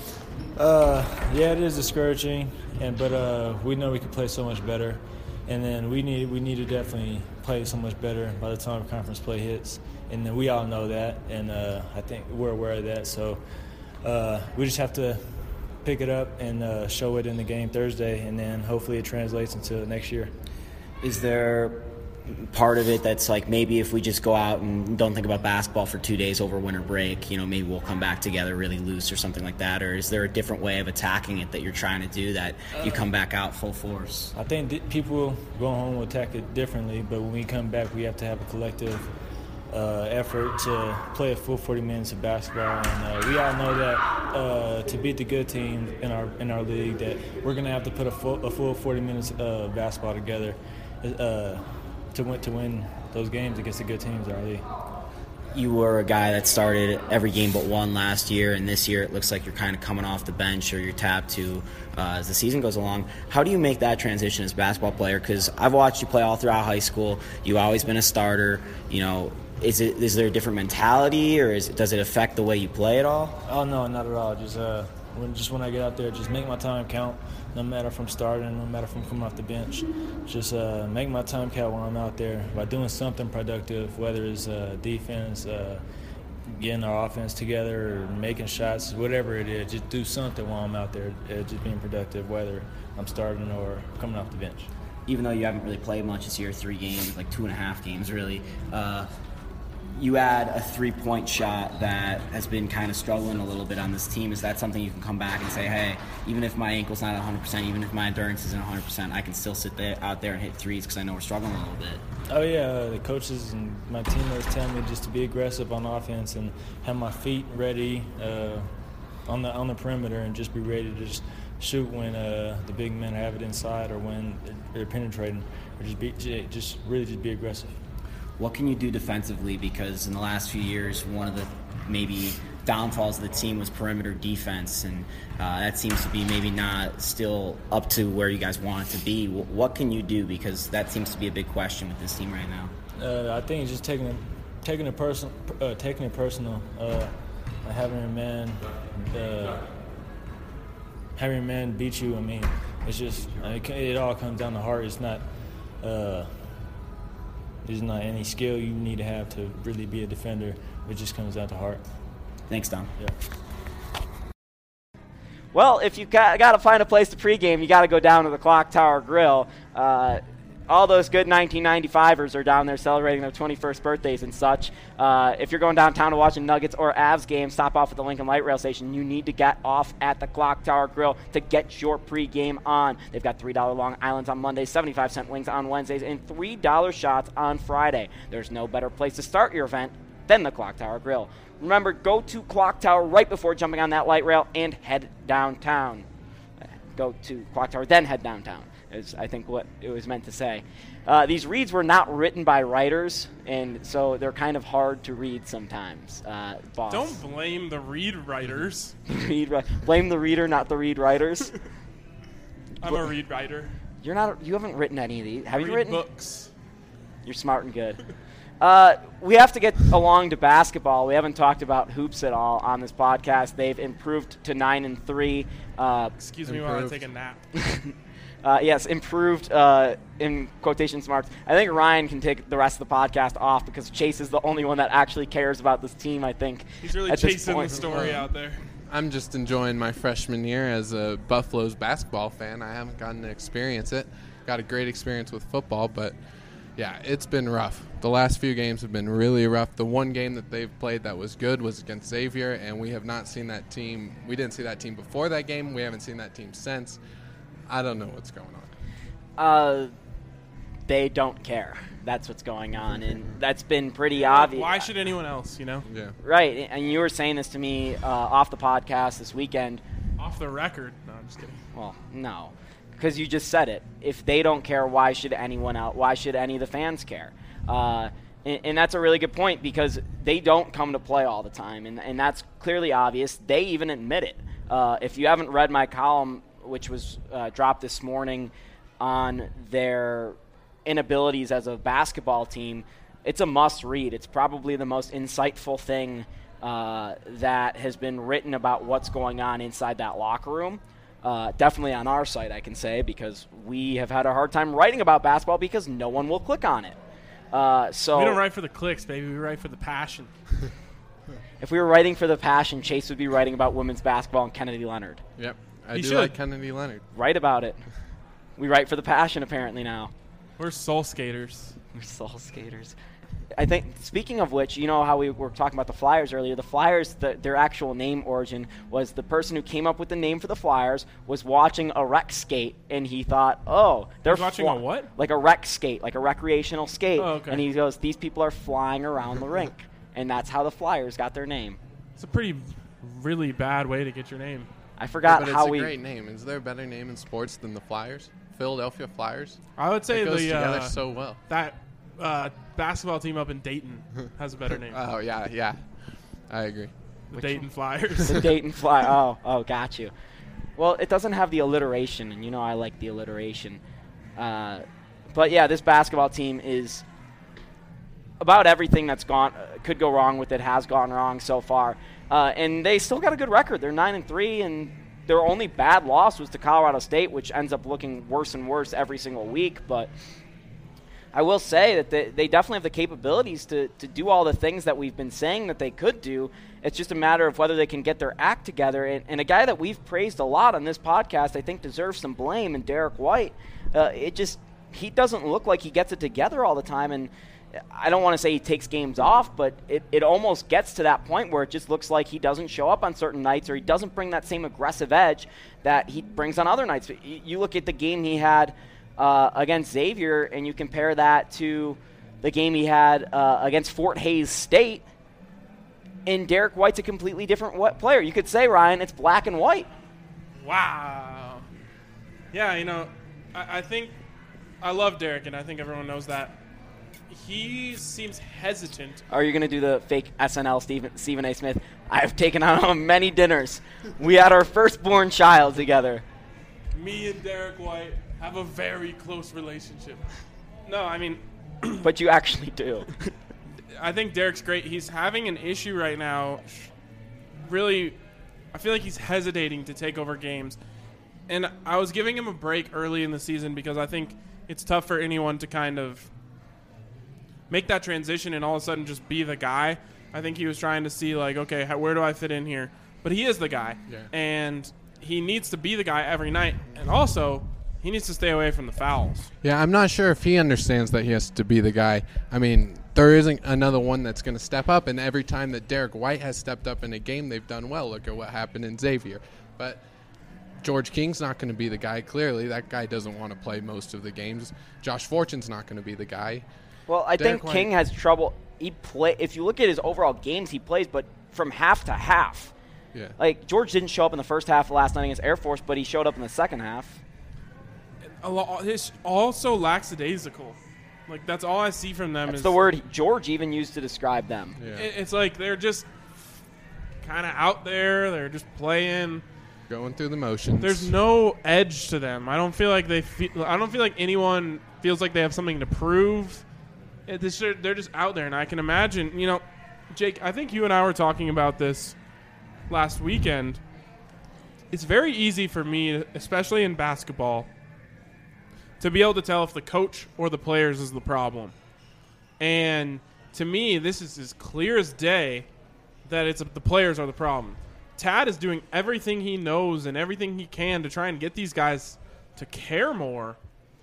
S7: Uh, yeah, it is discouraging, and but uh, we know we can play so much better, and then we need we need to definitely play so much better by the time conference play hits, and then we all know that, and uh, I think we're aware of that. So uh, we just have to pick it up and uh, show it in the game Thursday, and then hopefully it translates into next year.
S6: Is there part of it that's like maybe if we just go out and don't think about basketball for two days over winter break, you know, maybe we'll come back together really loose or something like that? Or is there a different way of attacking it that you're trying to do that you come back out full force?
S7: I think th- people going home will attack it differently, but when we come back, we have to have a collective uh, effort to play a full forty minutes of basketball. And uh, we all know that uh, to beat the good team in our in our league, that we're going to have to put a full, a full forty minutes of basketball together uh, to win to win those games against the good teams in our league.
S6: You were a guy that started every game but one last year, and this year it looks like you're kind of coming off the bench or you're tapped to uh, as the season goes along. How do you make that transition as a basketball player? Because I've watched you play all throughout high school. You've always been a starter. You know, is it is there a different mentality, or is it, does it affect the way you play at all?
S7: Oh no, not at all. Just uh, when just when I get out there, just make my time count. No matter if I'm starting, no matter if I'm coming off the bench, just uh, make my time count while I'm out there by doing something productive, whether it's uh, defense, uh, getting our offense together, or making shots, whatever it is. Just do something while I'm out there, uh, just being productive, whether I'm starting or coming off the bench.
S6: Even though you haven't really played much this year, three games, like two and a half games really, uh, you add a three-point shot that has been kind of struggling a little bit on this team. Is that something you can come back and say, hey, even if my ankle's not one hundred percent, even if my endurance isn't one hundred percent, I can still sit there, out there and hit threes because I know we're struggling a little bit?
S7: Oh, yeah. Uh, the coaches and my teammates tell me just to be aggressive on offense and have my feet ready uh, on the on the perimeter and just be ready to just shoot when uh, the big men have it inside or when they're penetrating, or just be just really just be aggressive.
S6: What can you do defensively? Because in the last few years, one of the maybe downfalls of the team was perimeter defense, and uh, that seems to be maybe not still up to where you guys want it to be. What can you do? Because that seems to be a big question with this team right now.
S7: Uh, I think it's just taking it, taking it personal, uh, taking it personal, uh, having a man, uh, having a man beat you. I mean, it's just it, it all comes down to heart. It's not. Uh, There's not any skill you need to have to really be a defender. It just comes down to heart.
S6: Thanks, Dom.
S7: Yeah.
S2: Well, if you got, got to find a place to pregame, you got to go down to the Clock Tower Grill. Uh, all those good nineteen ninety-fivers are down there celebrating their twenty-first birthdays and such. Uh, if you're going downtown to watch a Nuggets or Avs game, stop off at the Lincoln Light Rail Station. You need to get off at the Clock Tower Grill to get your pregame on. They've got three dollar Long Islands on Mondays, seventy-five cent wings on Wednesdays, and three dollar shots on Friday. There's no better place to start your event than the Clock Tower Grill. Remember, go to Clock Tower right before jumping on that light rail and head downtown. Go to Clock Tower, then head downtown, is I think what it was meant to say. Uh, these reads were not written by writers, and so they're kind of hard to read sometimes. Uh, boss.
S3: Don't blame the read writers.
S2: read, blame the reader, not the read writers.
S3: I'm a read writer.
S2: You're not. You haven't written any of these. Have
S3: read
S2: you written
S3: books?
S2: You're smart and good. Uh, we have to get along to basketball. We haven't talked about hoops at all on this podcast. They've improved to nine and three. Uh,
S3: Excuse me while I take a nap.
S2: uh, yes, improved uh, in quotations marks. I think Ryan can take the rest of the podcast off because Chase is the only one that actually cares about this team, I think.
S3: He's really chasing the story out there.
S4: I'm just enjoying my freshman year as a Buffalo's basketball fan. I haven't gotten to experience it. Got a great experience with football, but yeah, it's been rough. The last few games have been really rough. The one game that they've played that was good was against Xavier, and we have not seen that team. We didn't see that team before that game. We haven't seen that team since. I don't know what's going on.
S2: Uh, they don't care. that's what's going on, and that's been pretty obvious.
S3: Why should anyone else, you know?
S4: Yeah.
S2: Right, and you were saying this to me uh, off the podcast this weekend.
S3: Off the record. No, I'm just kidding.
S2: Well, no, because you just said it. If they don't care, why should anyone else? Why should any of the fans care? Uh, and, and that's a really good point, because they don't come to play all the time, and, and that's clearly obvious. They even admit it. Uh, if you haven't read my column, which was uh, dropped this morning on their inabilities as a basketball team, it's a must-read. It's probably the most insightful thing uh, that has been written about what's going on inside that locker room. Uh, definitely on our site, I can say, because we have had a hard time writing about basketball because no one will click on it. Uh, so
S3: We don't write for the clicks, baby. We write for the passion.
S2: If we were writing for the passion, Chase would be writing about women's basketball and Kennedy Leonard.
S4: Yep. I
S3: He
S4: do
S3: should.
S4: like Kennedy Leonard.
S2: Write about it. We write for the passion, apparently, now.
S3: We're soul skaters.
S2: We're soul skaters. I think, speaking of which, you know how we were talking about the Flyers earlier. The Flyers, the, their actual name origin was the person who came up with the name for the Flyers was watching a rec skate, and he thought, oh, they're
S3: He's watching
S2: fly-
S3: a what?
S2: Like a rec skate, like a recreational skate.
S3: Oh, okay.
S2: And he goes, these people are flying around the rink. And that's how the Flyers got their name.
S3: It's a pretty, really bad way to get your name.
S2: I forgot
S4: but
S2: how
S4: it's a
S2: we.
S4: great name. Is there a better name in sports than the Flyers? Philadelphia Flyers?
S3: I would say
S4: It goes
S3: the
S4: together
S3: uh,
S4: so well.
S3: that uh, basketball team up in Dayton has a better name.
S4: Oh, yeah, yeah. I agree.
S3: the Dayton Flyers.
S2: The Dayton Fly. Oh, oh, got you. Well, it doesn't have the alliteration, and you know I like the alliteration. Uh, but yeah, this basketball team is about everything that's gone uh, could go wrong with it has gone wrong so far, uh, and they still got a good record. They're nine and three, and their only bad loss was to Colorado State, which ends up looking worse and worse every single week. But I will say that they, they definitely have the capabilities to, to do all the things that we've been saying that they could do. It's just a matter of whether they can get their act together. And, and a guy that we've praised a lot on this podcast, I think deserves some blame, and Derek White. Uh, it just he doesn't look like he gets it together all the time. And I don't want to say he takes games off, but it, it almost gets to that point where it just looks like he doesn't show up on certain nights, or he doesn't bring that same aggressive edge that he brings on other nights. You, you look at the game he had uh, against Xavier, and you compare that to the game he had uh, against Fort Hays State, and Derek White's a completely different wh- player. You could say, Ryan, it's black and white.
S3: Wow. Yeah, you know, I, I think I love Derek, and I think everyone knows that. He seems hesitant.
S2: Are you going to do the fake S N L Stephen, Stephen A. Smith? I have taken on many dinners. We had our firstborn child together.
S3: Me and Derek White have a very close relationship. No, I mean,
S2: But you actually do.
S3: I think Derek's great. He's having an issue right now. Really, I feel like he's hesitating to take over games. And I was giving him a break early in the season because I think it's tough for anyone to kind of make that transition and all of a sudden just be the guy. I think he was trying to see, like, okay, how, where do I fit in here? But he is the guy.
S4: Yeah.
S3: And he needs to be the guy every night. And also, he needs to stay away from the fouls.
S4: Yeah, I'm not sure if he understands that he has to be the guy. I mean, there isn't another one that's going to step up, and every time that Derek White has stepped up in a game, they've done well. Look at what happened in Xavier. But George King's not going to be the guy, clearly. That guy doesn't want to play most of the games. Josh Fortune's not going to be the guy.
S2: Well, I
S4: Derek
S2: think King
S4: White-
S2: has trouble. He play. If you look at his overall games, he plays, but from half to half.
S4: Yeah.
S2: Like, George didn't show up in the first half of last night against Air Force, but he showed up in the second half.
S3: A lo- His also lackadaisical. Like, that's all I see from them.
S2: That's
S3: is
S2: the word George even used to describe them.
S4: Yeah.
S3: it- It's like they're just kind of out there. They're just playing.
S4: Going through the motions.
S3: There's no edge to them. I don't feel like they feel. I don't feel like anyone feels like they have something to prove. It, this, they're just out there, and I can imagine. You know, Jake, I think you and I were talking about this last weekend. It's very easy for me, especially in basketball, to be able to tell if the coach or the players is the problem. And to me, this is as clear as day that it's the players are the problem. Tad is doing everything he knows and everything he can to try and get these guys to care more,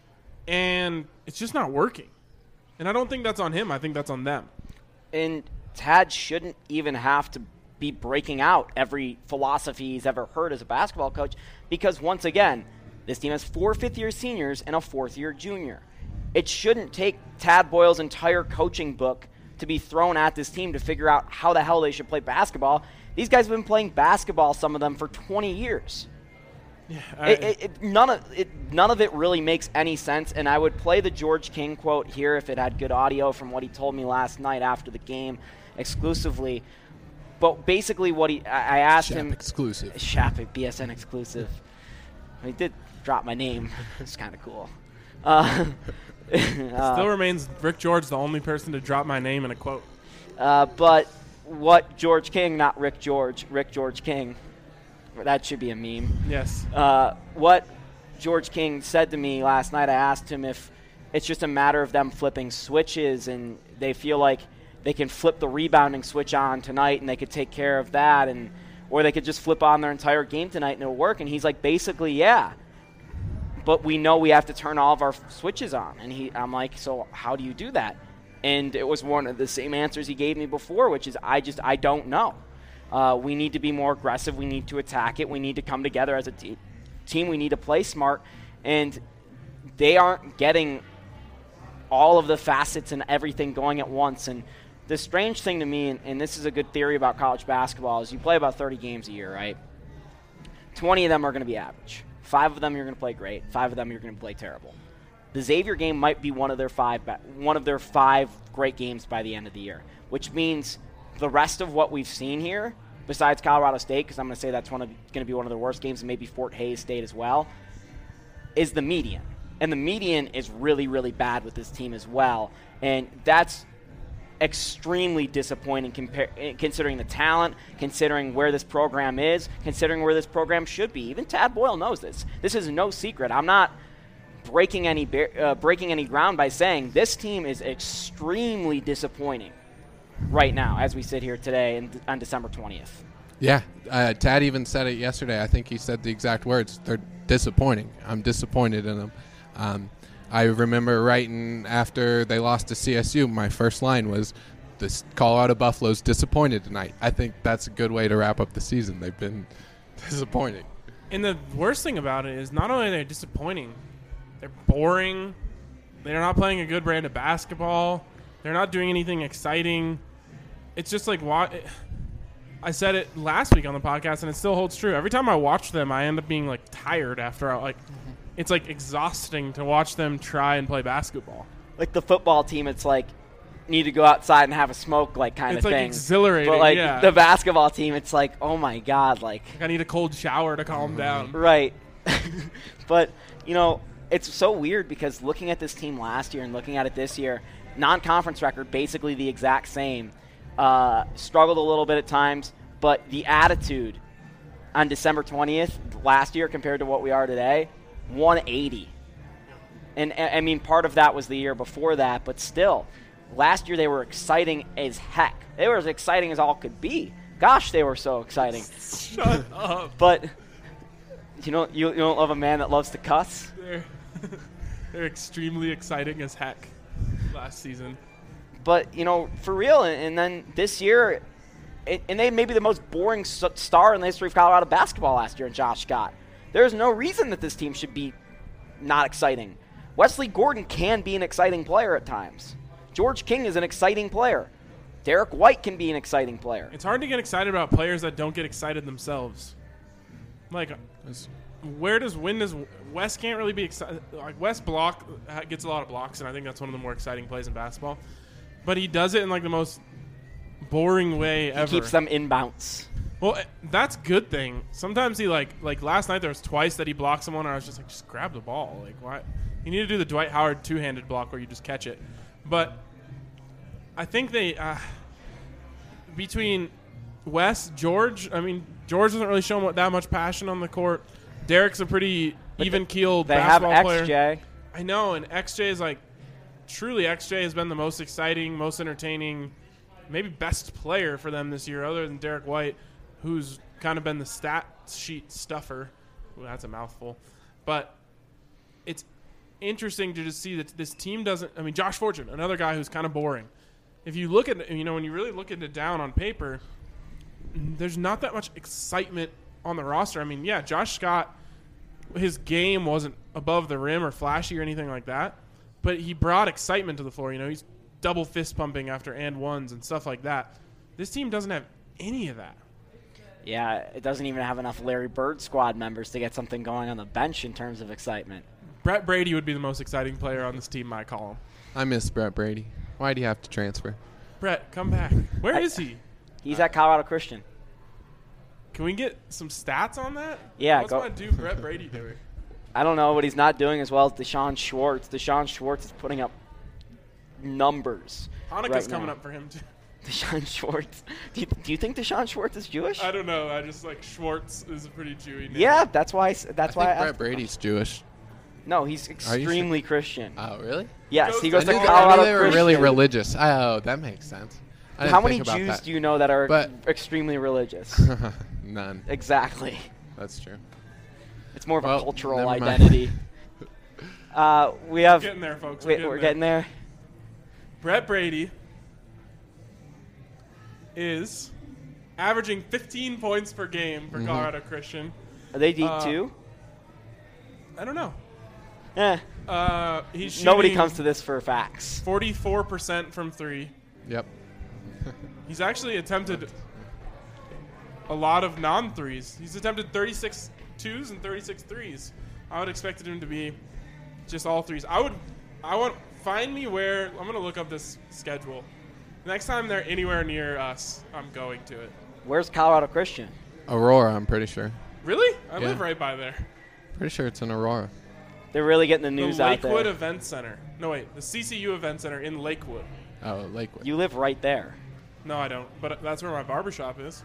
S3: and it's just not working. And I don't think that's on him. I think that's on them.
S2: And Tad shouldn't even have to be breaking out every philosophy he's ever heard as a basketball coach, because once again, this team has four fifth-year seniors and a fourth-year junior. It shouldn't take Tad Boyle's entire coaching book to be thrown at this team to figure out how the hell they should play basketball. These guys have been playing basketball, some of them, for twenty years.
S3: Yeah, I,
S2: It, it, it, none of it, none of it really makes any sense, and I would play the George King quote here if it had good audio from what he told me last night after the game exclusively. But basically, what he I, I asked
S4: Shap
S2: him
S4: exclusive.
S2: Shap B S N exclusive. He did drop my name. It's kind of cool. Uh, uh,
S3: still remains Rick George the only person to drop my name in a quote.
S2: uh, but what George King, not Rick George, Rick George King. That should be a meme.
S3: Yes.
S2: Uh, what George King said to me last night, I asked him if it's just a matter of them flipping switches and they feel like they can flip the rebounding switch on tonight and they could take care of that, and or they could just flip on their entire game tonight and it'll work. And he's like, basically, yeah. But we know we have to turn all of our switches on. And he, I'm like, so how do you do that? And it was one of the same answers he gave me before, which is I just, I don't know. Uh, we need to be more aggressive. We need to attack it. We need to come together as a te- team. We need to play smart. And they aren't getting all of the facets and everything going at once. And the strange thing to me, and, and this is a good theory about college basketball, is you play about thirty games a year, right? twenty of them are going to be average. Five of them you're going to play great. Five of them you're going to play terrible. The Xavier game might be one of their five one of their five great games by the end of the year, which means the rest of what we've seen here, besides Colorado State, because I'm going to say that's one of going to be one of the worst games, and maybe Fort Hays State as well, is the median. And the median is really, really bad with this team as well. And that's extremely disappointing compar- considering the talent, considering where this program is, considering where this program should be. Even Tad Boyle knows this. This is no secret. I'm not breaking any bar- uh, breaking any ground by saying this team is extremely disappointing right now as we sit here today in, on December twentieth.
S4: Yeah, uh, Tad even said it yesterday. I think he said the exact words. They're disappointing. I'm disappointed in them. Um, I remember writing after they lost to C S U, my first line was, "This Colorado Buffalo's disappointed tonight." I think that's a good way to wrap up the season. They've been disappointing.
S3: And the worst thing about it is not only are they disappointing, they're boring. They're not playing a good brand of basketball. They're not doing anything exciting. It's just like what I said it last week on the podcast, and it still holds true. Every time I watch them, I end up being like tired after I, like it's like exhausting to watch them try and play basketball.
S2: Like the football team, it's like need to go outside and have a smoke, like kind
S3: It's
S2: of
S3: like
S2: thing.
S3: exhilarating,
S2: But like
S3: yeah.
S2: the basketball team, it's like, oh my god, like
S3: I need a cold shower to calm down.
S2: right. But you know, it's so weird because looking at this team last year and looking at it this year, non-conference record basically the exact same. Uh, struggled a little bit at times, but the attitude on December twentieth last year compared to what we are today, one eighty. And I mean, part of that was the year before that, but still, last year they were exciting as heck. They were as exciting as all could be. Gosh, they were so exciting.
S3: Shut up.
S2: But you know, you, you don't love a man that loves to cuss.
S3: They're, they're extremely exciting as heck last season.
S2: But, you know, for real, and, and then this year, it, and they may be the most boring s- star in the history of Colorado basketball last year in Josh Scott. There's no reason that this team should be not exciting. Wesley Gordon can be an exciting player at times. George King is an exciting player. Derek White can be an exciting player.
S3: It's hard to get excited about players that don't get excited themselves. Like, where does when does Wes can't really be excited? Like Wes block gets a lot of blocks, and I think that's one of the more exciting plays in basketball. But he does it in like the most boring way ever.
S2: He keeps them in bounce.
S3: Well, that's a good thing. Sometimes he like like last night there was twice that he blocked someone, and I was just like, just grab the ball. Like, why? You need to do the Dwight Howard two-handed block where you just catch it. But I think they uh, between Wes, George. I mean, George doesn't really show that much passion on the court. Derek's a pretty even-keeled
S2: They have
S3: basketball
S2: X J.
S3: player. I know, and X J is like truly X J has been the most exciting, most entertaining, maybe best player for them this year, other than Derek White, who's kind of been the stat sheet stuffer. Ooh, that's a mouthful. But it's interesting to just see that this team doesn't – I mean, Josh Fortune, another guy who's kind of boring. If you look at – you know, when you really look at it down on paper, there's not that much excitement on the roster. I mean, yeah, Josh Scott, his game wasn't above the rim or flashy or anything like that. but he brought excitement to the floor. You know, he's double fist pumping after and ones and stuff like that. This team doesn't have any of that.
S2: Yeah, it doesn't even have enough Larry Bird squad members to get something going on the bench in terms of excitement.
S3: Brett Brady would be the most exciting player on this team, my column.
S4: I miss Brett Brady. Why do you have to transfer?
S3: Brett, come back. Where
S2: I,
S3: is he?
S2: He's at Colorado Christian.
S3: Can we get some stats on that?
S2: Yeah,
S3: What's
S2: go.
S3: my dude Brett Brady doing?
S2: I don't know, but he's not doing as well as Deshaun Schwartz. Deshaun Schwartz is putting up numbers.
S3: Hanukkah's
S2: right
S3: coming
S2: now.
S3: up for him, too.
S2: Deshaun Schwartz. Do you, do you think Deshaun Schwartz is Jewish?
S3: I don't know. I just like Schwartz is a pretty Jewy name.
S2: Yeah, that's why. I s- That's
S4: I
S2: why.
S4: think
S2: I
S4: Brett
S2: asked
S4: Brady's Jewish.
S2: No, he's
S4: sure?
S2: extremely Christian.
S4: Oh, really?
S2: Yes,
S3: Goes
S2: he
S3: to
S2: goes to
S4: I knew,
S2: Colorado
S4: I knew they were
S2: Christian.
S4: really religious. Oh, that makes sense. I didn't
S2: How many
S4: think about
S2: Jews
S4: that.
S2: do you know that are
S4: But-
S2: extremely religious?
S4: None.
S2: Exactly.
S4: That's true.
S2: It's more of
S4: Well,
S2: a cultural
S4: never mind.
S2: identity. uh, we have.
S3: We're getting there, folks. We're
S2: Wait,
S3: getting
S2: we're
S3: there.
S2: getting there.
S3: Brett Brady is averaging fifteen points per game for
S4: Mhm.
S3: Colorado Christian.
S2: Are they deep
S3: Uh,
S2: too?
S3: I don't know.
S2: Eh.
S3: Uh, he's shooting
S2: Nobody comes to this for facts.
S3: forty-four percent from three.
S4: Yep.
S3: He's actually attempted a lot of non-threes. He's attempted thirty-six twos and thirty-six threes. I would expect him to be just all threes. I would, I want find me where I'm gonna look up this schedule. Next time they're anywhere near us, I'm going to it.
S2: Where's Colorado Christian?
S4: Aurora, I'm pretty sure.
S3: Really? I
S4: Yeah.
S3: live right by there.
S4: Pretty sure it's in Aurora.
S2: They're really getting the news
S3: the
S2: out there.
S3: Lakewood Event Center. No, wait. The C C U Event Center in Lakewood.
S4: Oh, Lakewood.
S2: You live right there.
S3: No, I don't. But that's where my barbershop is.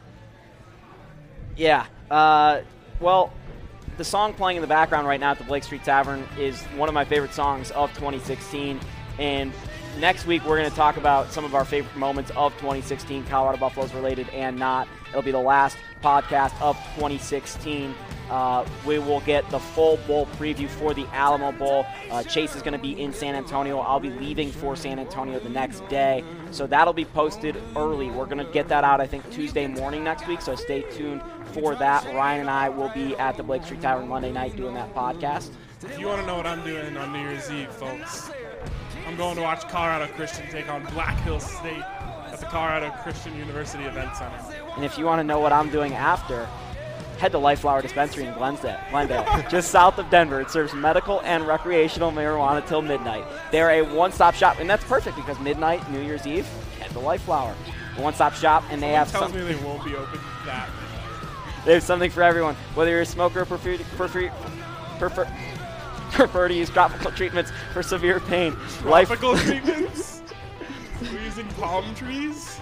S2: Yeah. Uh, well, the song playing in the background right now at the Blake Street Tavern is one of my favorite songs of twenty sixteen. And next week, we're going to talk about some of our favorite moments of twenty sixteen, Colorado Buffaloes related and not. It'll be the last podcast of twenty sixteen. Uh, we will get the full bowl preview for the Alamo Bowl. Uh, Chase is going to be in San Antonio. I'll be leaving for San Antonio the next day. So that'll be posted early. We're going to get that out, I think, Tuesday morning next week. So stay tuned for that. Ryan and I will be at the Blake Street Tavern Monday night doing that podcast.
S3: If you want to know what I'm doing on New Year's Eve, folks, I'm going to watch Colorado Christian take on Black Hills State at the Colorado Christian University Event Center.
S2: And if you want to know what I'm doing after, head to Lifeflower Dispensary in Glendale, Glendale, just south of Denver. It serves medical and recreational marijuana till midnight. They're a one-stop shop, and that's perfect because midnight, New Year's Eve, head to Lifeflower. A one-stop shop, and they have
S3: Someone
S2: some,
S3: tells me they won't be open that.
S2: they have something for everyone. Whether you're a smoker or prefer, prefer, prefer, prefer to use tropical treatments for severe pain. Life,
S3: Tropical treatments? We're using palm trees?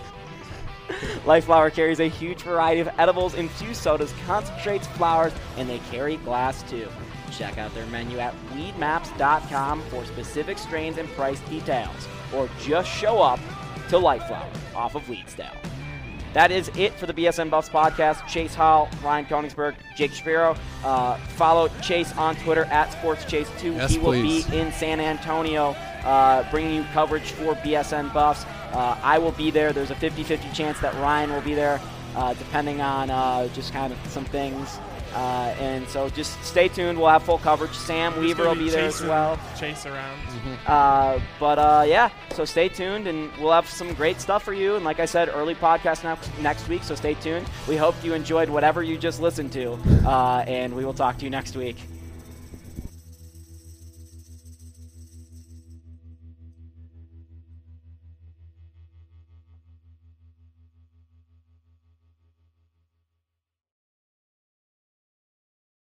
S2: Lifeflower carries a huge variety of edibles, infused sodas, concentrates, flowers, and they carry glass too. Check out their menu at weed maps dot com for specific strains and price details, or just show up to Lifeflower off of Leedsdale. That is it for the B S N Buffs podcast. Chase Hall, Ryan Koenigsberg, Jake Shapiro. Uh, follow Chase on Twitter at Sports Chase two.
S4: Yes,
S2: he will
S4: please.
S2: be in San Antonio uh, bringing you coverage for B S N Buffs. Uh, I will be there. There's a fifty-fifty chance that Ryan will be there, uh, depending on uh, just kind of some things. Uh, and so just stay tuned. We'll have full coverage. Sam
S3: There's
S2: Weaver
S3: gonna
S2: will be there as
S3: chasing-
S2: well.
S3: Chase around.
S2: Uh, but uh, yeah, so stay tuned, and we'll have some great stuff for you. And like I said, early podcast next next week, so stay tuned. We hope you enjoyed whatever you just listened to, uh, and we will talk to you next week.